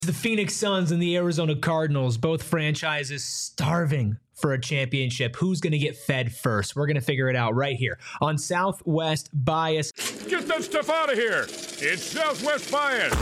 The Phoenix Suns and the Arizona Cardinals, both franchises starving for a championship. Who's going to get fed first? We're going to figure it out right here on Southwest Bias. Get that stuff out of here. It's Southwest Bias.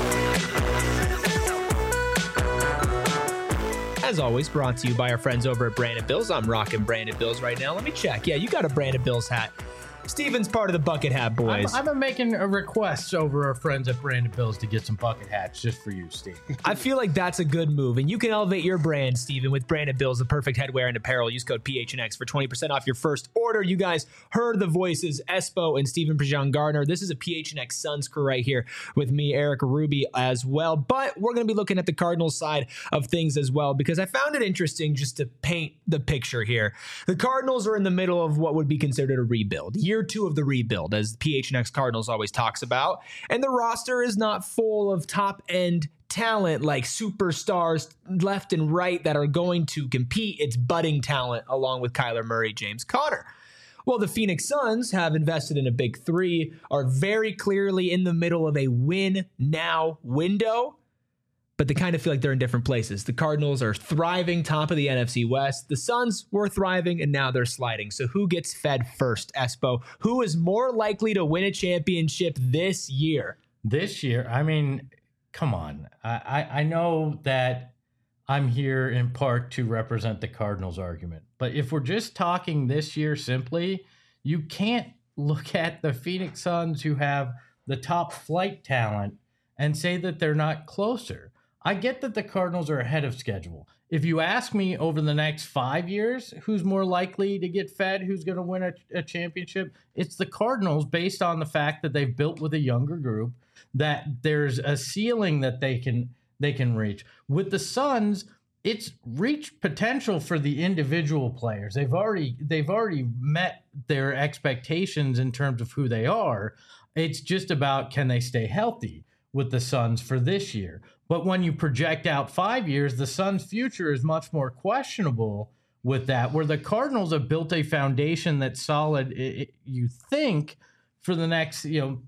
As always, brought to you by our friends over at Brandon Bills. I'm rocking Brandon Bills right now. Let me check. Yeah, you got a Brandon Bills hat. Steven's part of the Bucket Hat Boys. I've been making a request over our friends at Brandon Bills to get some bucket hats just for you, Steve. I feel like that's a good move, and you can elevate your brand, Steven, with Brandon Bills, the perfect headwear and apparel. Use code PHNX for 20% off your first order. You guys heard the voices, Espo and Steven Prejean Gardner. This is a PHNX Suns crew right here with me, Eric Ruby, as well. But we're going to be looking at the Cardinals side of things as well, because I found it interesting just to paint the picture here. The Cardinals are in the middle of what would be considered a rebuild. Year two of the rebuild, as PHNX Cardinals always talks about. And the roster is not full of top-end talent like superstars left and right that are going to compete. It's budding talent along with Kyler Murray, James Conner. Well, the Phoenix Suns have invested in a big three, are very clearly in the middle of a win-now window, but they kind of feel like they're in different places. The Cardinals are thriving, top of the NFC West. The Suns were thriving, and now they're sliding. So who gets fed first, Espo? Who is more likely to win a championship this year? This year? I mean, come on. I know that I'm here in part to represent the Cardinals argument. But if we're just talking this year simply, you can't look at the Phoenix Suns, who have the top flight talent, and say that they're not closer. I get that the Cardinals are ahead of schedule. If you ask me over the next 5 years, who's more likely to get fed, who's going to win a championship, it's the Cardinals, based on the fact that they've built with a younger group, that there's a ceiling that they can reach. With the Suns, it's reached potential for the individual players. They've already met their expectations in terms of who they are. It's just about, can they stay healthy with the Suns for this year? But when you project out 5 years, the Suns' future is much more questionable with that, where the Cardinals have built a foundation that's solid, you think, for the next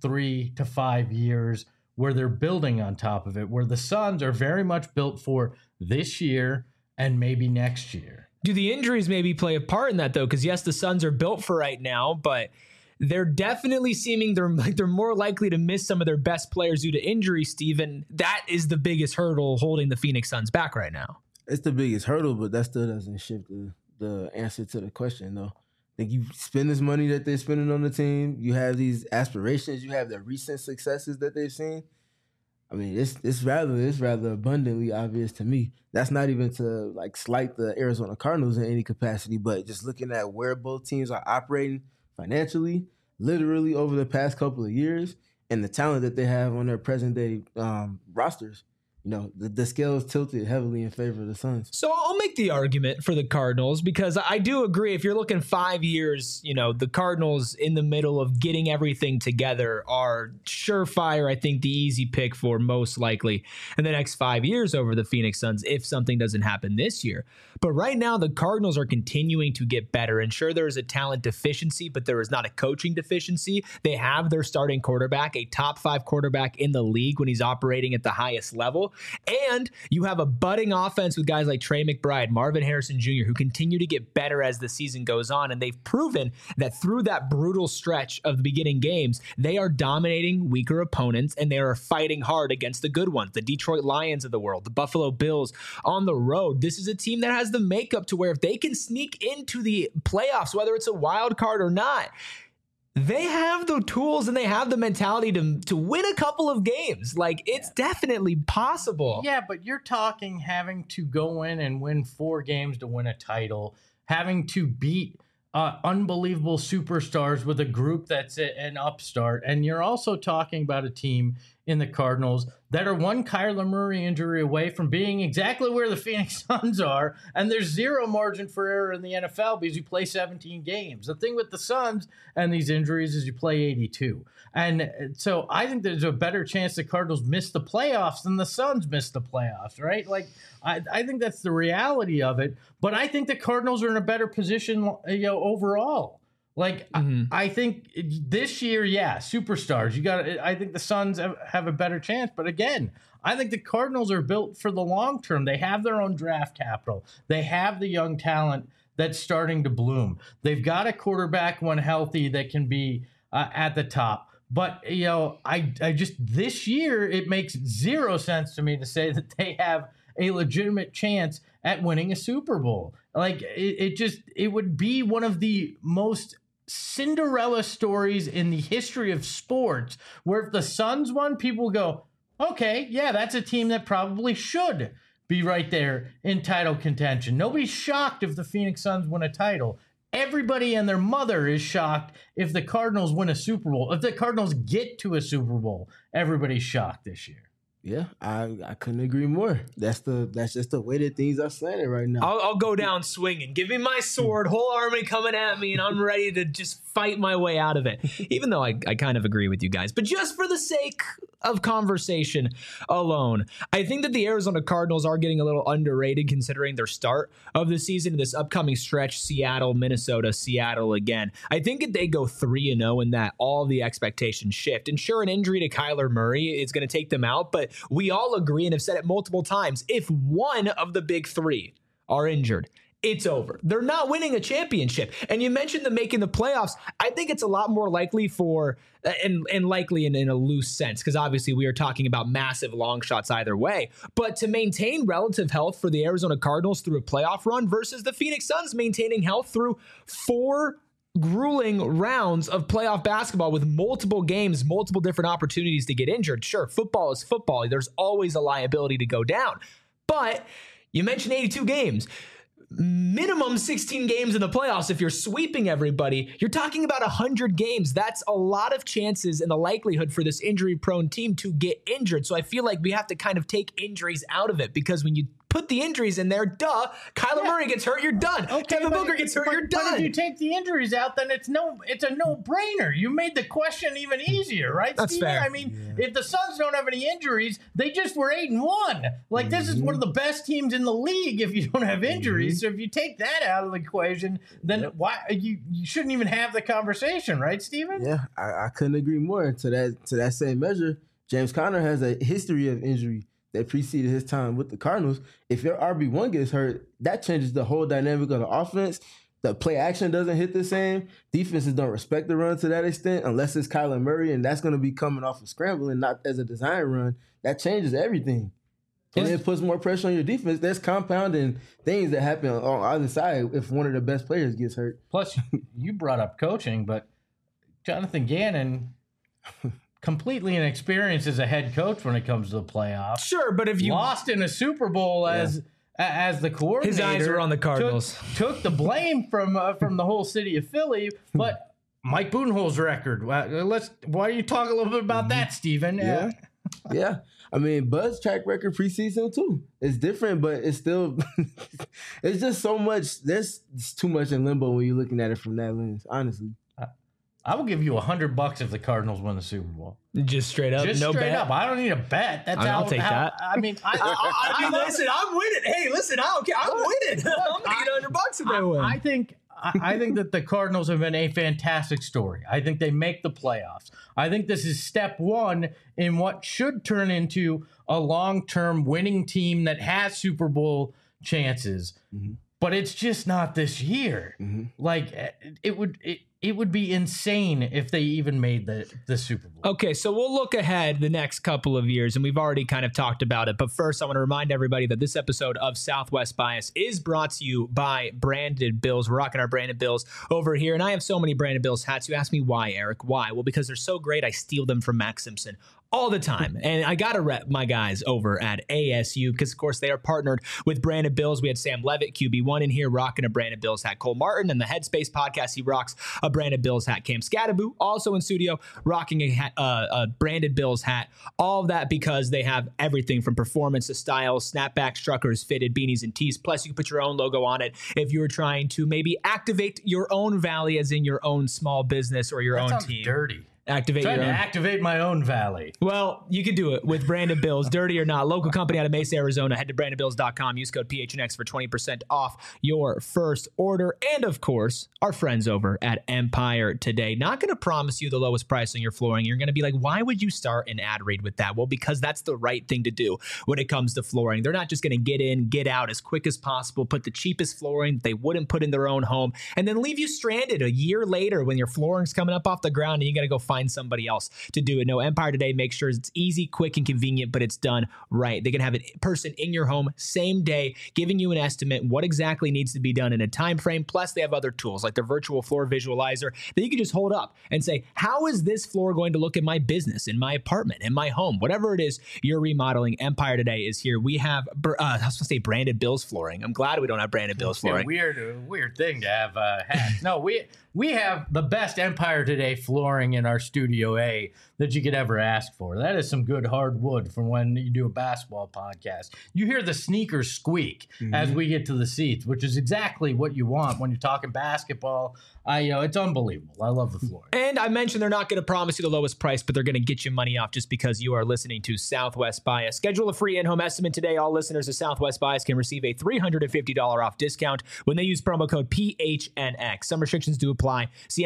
3 to 5 years, where they're building on top of it, where the Suns are very much built for this year and maybe next year. Do the injuries maybe play a part in that, though? Because, yes, the Suns are built for right now, but they're definitely seeming they're more likely to miss some of their best players due to injury, Steven. That is the biggest hurdle holding the Phoenix Suns back right now. It's the biggest hurdle, but that still doesn't shift the answer to the question, though. Like, you spend this money that they're spending on the team, you have these aspirations, you have the recent successes that they've seen. I mean, it's rather abundantly obvious to me. That's not even to slight the Arizona Cardinals in any capacity, but just looking at where both teams are operating financially, literally over the past couple of years, and the talent that they have on their present day rosters, the scale is tilted heavily in favor of the Suns. So I'll make the argument for the Cardinals, because I do agree, if you're looking 5 years, the Cardinals in the middle of getting everything together are surefire, I think, the easy pick for most likely in the next 5 years over the Phoenix Suns if something doesn't happen this year. But right now, the Cardinals are continuing to get better. And sure, there is a talent deficiency, but there is not a coaching deficiency. They have their starting quarterback, a top 5 quarterback in the league when he's operating at the highest level. And you have a budding offense with guys like Trey McBride, Marvin Harrison Jr., who continue to get better as the season goes on. And they've proven that through that brutal stretch of the beginning games, they are dominating weaker opponents, and they are fighting hard against the good ones, the Detroit Lions of the world, the Buffalo Bills on the road. This is a team that has the makeup to where if they can sneak into the playoffs, whether it's a wild card or not, they have the tools and they have the mentality to win a couple of games. It's definitely possible. Yeah, but you're talking having to go in and win 4 games to win a title, having to beat unbelievable superstars with a group that's an upstart. And you're also talking about a team in the Cardinals that are one Kyler Murray injury away from being exactly where the Phoenix Suns are. And there's zero margin for error in the NFL because you play 17 games. The thing with the Suns and these injuries is you play 82. And so I think there's a better chance the Cardinals miss the playoffs than the Suns miss the playoffs, right? I think that's the reality of it. But I think the Cardinals are in a better position, overall Like, I think this year, superstars. I think the Suns have a better chance. But again, I think the Cardinals are built for the long term. They have their own draft capital. They have the young talent that's starting to bloom. They've got a quarterback when healthy that can be at the top. But, I just, this year, it makes zero sense to me to say that they have a legitimate chance at winning a Super Bowl. Like, it would be one of the most Cinderella stories in the history of sports, where if the Suns won, people go, okay, yeah, that's a team that probably should be right there in title contention. Nobody's shocked if the Phoenix Suns win a title. Everybody and their mother is shocked if the Cardinals win a Super Bowl. If the Cardinals get to a Super Bowl, everybody's shocked this year. Yeah, I couldn't agree more. That's just the way that things are slanted right now. I'll go down swinging. Give me my sword, whole army coming at me, and I'm ready to just fight my way out of it. Even though I kind of agree with you guys. But just for the sake of conversation alone, I think that the Arizona Cardinals are getting a little underrated considering their start of the season, this upcoming stretch, Seattle, Minnesota, Seattle again. I think if they go 3-0 and that all the expectations shift, and sure, an injury to Kyler Murray is going to take them out, but we all agree and have said it multiple times, if one of the big three are injured, it's over. They're not winning a championship. And you mentioned them making the playoffs. I think it's a lot more likely for, and likely in a loose sense, because obviously we are talking about massive long shots either way, but to maintain relative health for the Arizona Cardinals through a playoff run versus the Phoenix Suns maintaining health through 4 grueling rounds of playoff basketball with multiple games, multiple different opportunities to get injured. Sure, football is football. There's always a liability to go down. But you mentioned 82 games. Minimum 16 games in the playoffs. If you're sweeping everybody, you're talking about 100 games. That's a lot of chances and the likelihood for this injury-prone team to get injured. So I feel like we have to kind of take injuries out of it, because when you put the injuries in there, Kyler Murray gets hurt, you're done. Devin Booker gets hurt, you're done. But if you take the injuries out, then it's a no-brainer. You made the question even easier, right, That's Steven? fair. I mean, if the Suns don't have any injuries, they just were 8-1. Like, this is one of the best teams in the league if you don't have injuries. So if you take that out of the equation, then why you shouldn't even have the conversation, right, Steven? Yeah, I couldn't agree more. To that same measure, James Conner has a history of injury that preceded his time with the Cardinals. If your RB1 gets hurt, that changes the whole dynamic of the offense. The play action doesn't hit the same. Defenses don't respect the run to that extent unless it's Kyler Murray, and that's going to be coming off of scrambling, not as a design run. That changes everything. And it puts more pressure on your defense. There's compounding things that happen on either side if one of the best players gets hurt. Plus, you brought up coaching, but Jonathan Gannon... completely inexperienced as a head coach when it comes to the playoffs. Sure, but if you lost in a Super Bowl as the coordinator, his eyes were on the Cardinals. Took the blame from the whole city of Philly. But Mike Budenholz's record. Why don't you talk a little bit about that, Steven? Yeah. I mean, Bud's track record preseason too. It's different, but it's still it's just so much. There's too much in limbo when you're looking at it from that lens, honestly. I will give you $100 if the Cardinals win the Super Bowl. Just straight up, just no straight bet. up. I don't need a bet. That's I'll take that. I mean, listen, I'm winning. Hey, listen, I don't care. I'm winning. I'm gonna get $100 if they win. I think that the Cardinals have been a fantastic story. I think they make the playoffs. I think this is step one in what should turn into a long-term winning team that has Super Bowl chances. Mm-hmm. But it's just not this year. Mm-hmm. Like it would be insane if they even made the Super Bowl. Okay, so we'll look ahead the next couple of years, and we've already kind of talked about it. But first, I want to remind everybody that this episode of Southwest Bias is brought to you by Branded Bills. We're rocking our Branded Bills over here, and I have so many Branded Bills hats. You ask me why, Eric? Why? Well, because they're so great, I steal them from Max Simpson all the time. And I got to rep my guys over at ASU because, of course, they are partnered with Branded Bills. We had Sam Levitt, QB1, in here rocking a Branded Bills hat. Cole Martin and the Headspace podcast, he rocks a Branded Bills hat. Cam Scattaboo, also in studio, rocking a Branded Bills hat. All of that because they have everything from performance to style, snapbacks, truckers, fitted beanies, and tees. Plus, you can put your own logo on it if you're trying to maybe activate your own valley, as in your own small business or your own team. Dirty. Activate Trying your to own. activate my own valley. Well, you can do it with Brandon Bills, dirty or not. Local company out of Mesa, Arizona. Head to brandonbills.com. Use code PHNX for 20% off your first order. And of course, our friends over at Empire Today. Not going to promise you the lowest price on your flooring. You're going to be like, why would you start an ad read with that? Well, because that's the right thing to do when it comes to flooring. They're not just going to get in, get out as quick as possible, put the cheapest flooring they wouldn't put in their own home, and then leave you stranded a year later when your flooring's coming up off the ground and you got to go find somebody else to do it. No, Empire Today makes sure it's easy, quick, and convenient, but it's done right. They can have a person in your home same day, giving you an estimate what exactly needs to be done in a time frame. Plus, they have other tools like their virtual floor visualizer that you can just hold up and say, how is this floor going to look in my business, in my apartment, in my home, whatever it is you're remodeling. Empire Today is here. We have, I was going to say Brandon Bills flooring. I'm glad we don't have Brandon Bills flooring. Weird thing to have hats. No, we have the best Empire Today flooring in our Studio A that you could ever ask for. That is some good hard wood from when you do a basketball podcast. You hear the sneakers squeak as we get to the seats, which is exactly what you want when you're talking basketball. It's unbelievable. I love the flooring. And I mentioned they're not going to promise you the lowest price, but they're going to get you money off just because you are listening to Southwest Bias. Schedule a free in-home estimate today. All listeners of Southwest Bias can receive a $350 off discount when they use promo code PHNX. Some restrictions do apply. See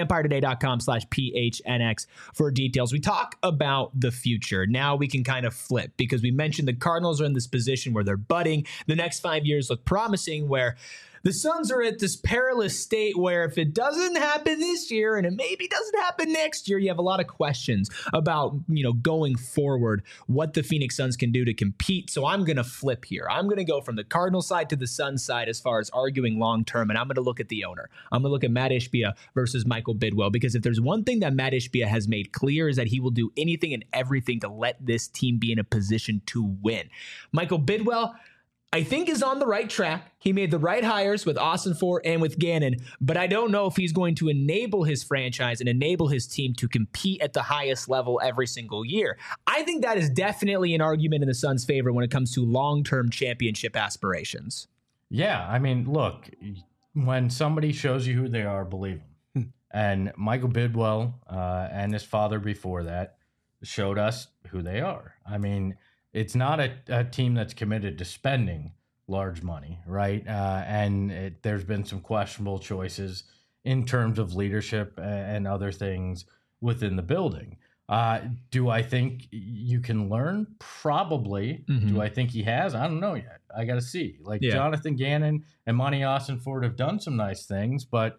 EmpireToday.com/PHNX for details. We talk about the future. Now we can kind of flip because we mentioned the Cardinals are in this position where they're budding. The next 5 years look promising, where the Suns are at this perilous state where if it doesn't happen this year and it maybe doesn't happen next year, you have a lot of questions about, going forward, what the Phoenix Suns can do to compete. So I'm going to flip here. I'm going to go from the Cardinals side to the Suns side as far as arguing long-term, and I'm going to look at the owner. I'm going to look at Matt Ishbia versus Michael Bidwell, because if there's one thing that Matt Ishbia has made clear is that he will do anything and everything to let this team be in a position to win. Michael Bidwell, I think, is on the right track. He made the right hires with Ossenfort and with Gannon, but I don't know if he's going to enable his franchise and enable his team to compete at the highest level every single year. I think that is definitely an argument in the Suns' favor when it comes to long-term championship aspirations. Yeah, I mean, look, when somebody shows you who they are, believe them. And Michael Bidwell and his father before that showed us who they are. I mean, it's not a team that's committed to spending large money, right? There's been some questionable choices in terms of leadership and other things within the building. Do I think you can learn? Probably. Do I think he has? I don't know yet. I got to see. Jonathan Gannon and Monty Ossenfort have done some nice things, but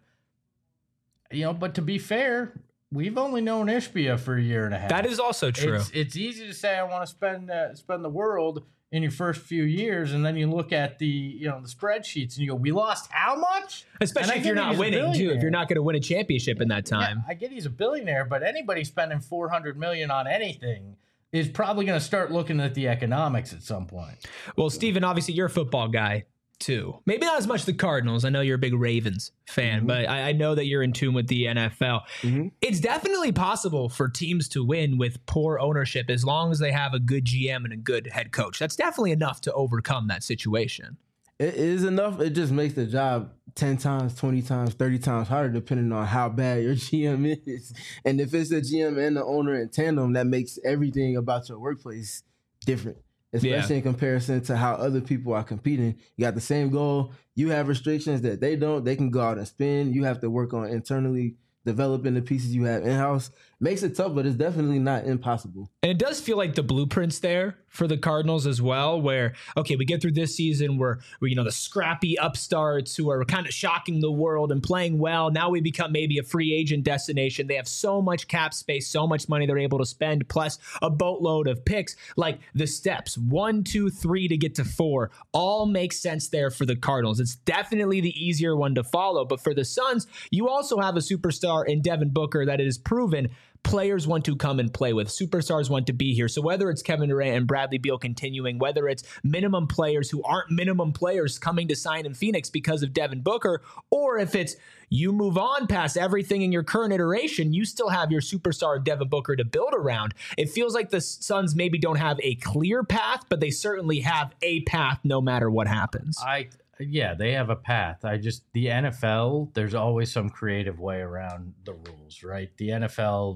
to be fair, we've only known Ishbia for a year and a half. That is also true. It's easy to say I want to spend the world in your first few years, and then you look at the spreadsheets and you go, we lost how much? Especially if you're not winning too. If you're not going to win a championship in that time. Yeah, I get he's a billionaire, but anybody spending $400 million on anything is probably going to start looking at the economics at some point. Well, Steven, obviously you're a football guy too. Maybe not as much the Cardinals. I know you're a big Ravens fan, but I know that you're in tune with the NFL. It's definitely possible for teams to win with poor ownership as long as they have a good GM and a good head coach. That's definitely enough to overcome that situation. It is enough. It just makes the job 10 times, 20 times, 30 times harder depending on how bad your GM is. And if it's the GM and the owner in tandem, that makes everything about your workplace different. Especially in comparison to how other people are competing. You got the same goal. You have restrictions that they don't. They can go out and spend. You have to work on internally developing the pieces you have in-house. Makes it tough, but it's definitely not impossible. And it does feel like the blueprint's there for the Cardinals as well, where, okay, we get through this season where the scrappy upstarts who are kind of shocking the world and playing well. Now we become maybe a free agent destination. They have so much cap space, so much money they're able to spend, plus a boatload of picks. Like the steps 1, 2, 3 to get to 4 all make sense there for the Cardinals. It's definitely the easier one to follow. But for the Suns, you also have a superstar in Devin Booker that it is proven players want to come and play with. Superstars want to be here. So whether it's Kevin Durant and Bradley Beal continuing, whether it's minimum players who aren't minimum players coming to sign in Phoenix because of Devin Booker, or if it's you move on past everything in your current iteration, you still have your superstar Devin Booker to build around. It feels like the Suns maybe don't have a clear path, but they certainly have a path no matter what happens. Yeah, they have a path. The NFL, there's always some creative way around the rules, right? The NFL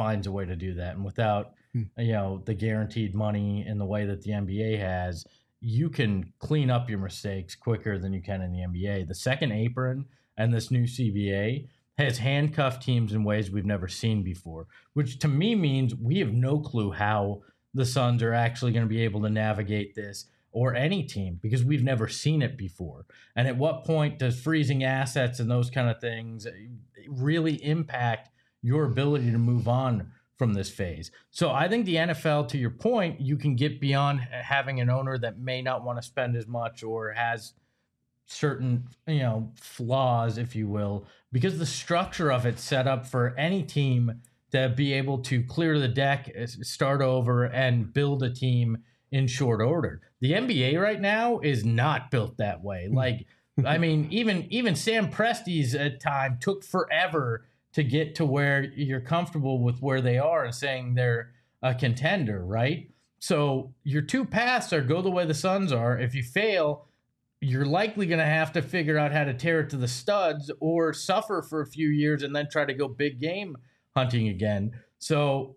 finds a way to do that. And without, the guaranteed money in the way that the NBA has, you can clean up your mistakes quicker than you can in the NBA. The second apron and this new CBA has handcuffed teams in ways we've never seen before, which to me means we have no clue how the Suns are actually going to be able to navigate this, or any team, because we've never seen it before. And at what point does freezing assets and those kind of things really impact your ability to move on from this phase? So I think the NFL, to your point, you can get beyond having an owner that may not want to spend as much or has certain, flaws, if you will, because the structure of it set up for any team to be able to clear the deck, start over, and build a team in short order. The NBA right now is not built that way. Like, I mean, even Sam Presti's time took forever to get to where you're comfortable with where they are and saying they're a contender, right? So your two paths are go the way the Suns are. If you fail, you're likely going to have to figure out how to tear it to the studs or suffer for a few years and then try to go big game hunting again. So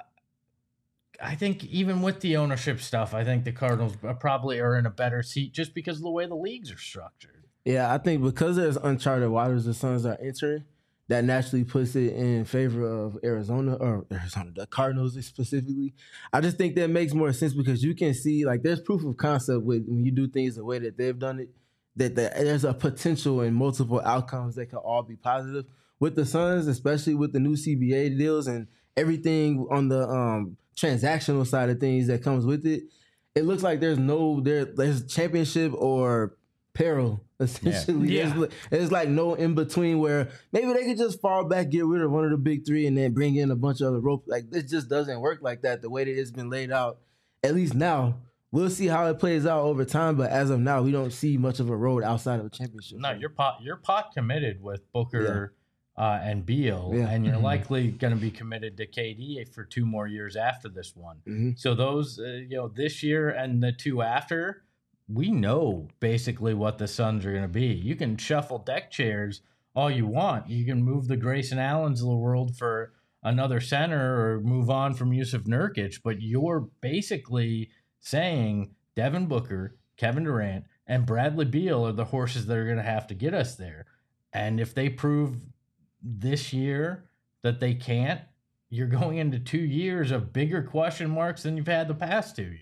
I think even with the ownership stuff, I think the Cardinals probably are in a better seat just because of the way the leagues are structured. Yeah, I think because there's uncharted waters the Suns are entering, that naturally puts it in favor of the Cardinals specifically. I just think that makes more sense because you can see, like, there's proof of concept when you do things the way that they've done it, that there's a potential in multiple outcomes that can all be positive. With the Suns, especially with the new CBA deals and everything on the transactional side of things that comes with it, it looks like there's championship or peril, essentially. Yeah. There's like no in between where maybe they could just fall back, get rid of one of the big three, and then bring in a bunch of other rope. Like, it just doesn't work like that the way that it's been laid out. At least now, we'll see how it plays out over time. But as of now, we don't see much of a road outside of a championship. No, you're pot committed with Booker and Beal, and you're likely going to be committed to KD for 2 more years after this one. Mm-hmm. So those, this year and the 2 after, we know basically what the Suns are going to be. You can shuffle deck chairs all you want. You can move the Grayson Allens of the world for another center or move on from Yusuf Nurkic, but you're basically saying Devin Booker, Kevin Durant, and Bradley Beal are the horses that are going to have to get us there. And if they prove this year that they can't, you're going into 2 years of bigger question marks than you've had the past 2 years.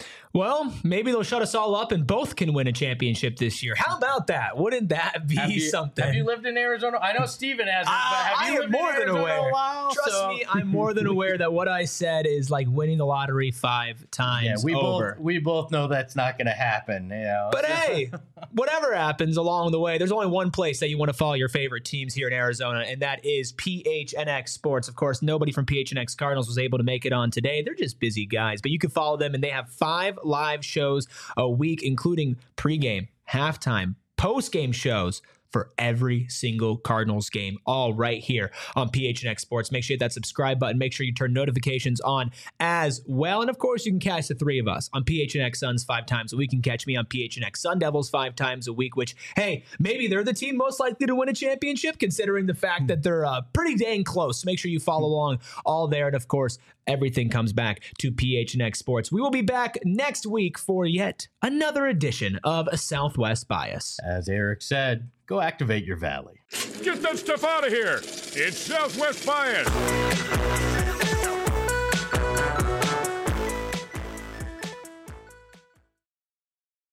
Well, maybe they'll shut us all up and both can win a championship this year. How about that? Wouldn't that be something? Have you lived in Arizona? I know Steven hasn't, but have you lived in Arizona a while? Trust me, I'm more than aware that what I said is like winning the lottery 5 times over. We both know that's not going to happen. But hey, whatever happens along the way, there's only one place that you want to follow your favorite teams here in Arizona, and that is PHNX Sports. Of course, nobody from PHNX Cardinals was able to make it on today. They're just busy guys, but you can follow them, and they have 5 live shows a week, including pregame, halftime, postgame shows for every single Cardinals game, all right here on PHNX Sports. Make sure you hit that subscribe button. Make sure you turn notifications on as well. And of course, you can catch the 3 of us on PHNX Suns 5 times a week. You can catch me on PHNX Sun Devils 5 times a week, which, hey, maybe they're the team most likely to win a championship, considering the fact that they're pretty dang close. So make sure you follow along all there. And of course, everything comes back to PHNX Sports. We will be back next week for yet another edition of a Southwest Bias. As Eric said, go activate your valley. Get that stuff out of here. It's Southwest Bias.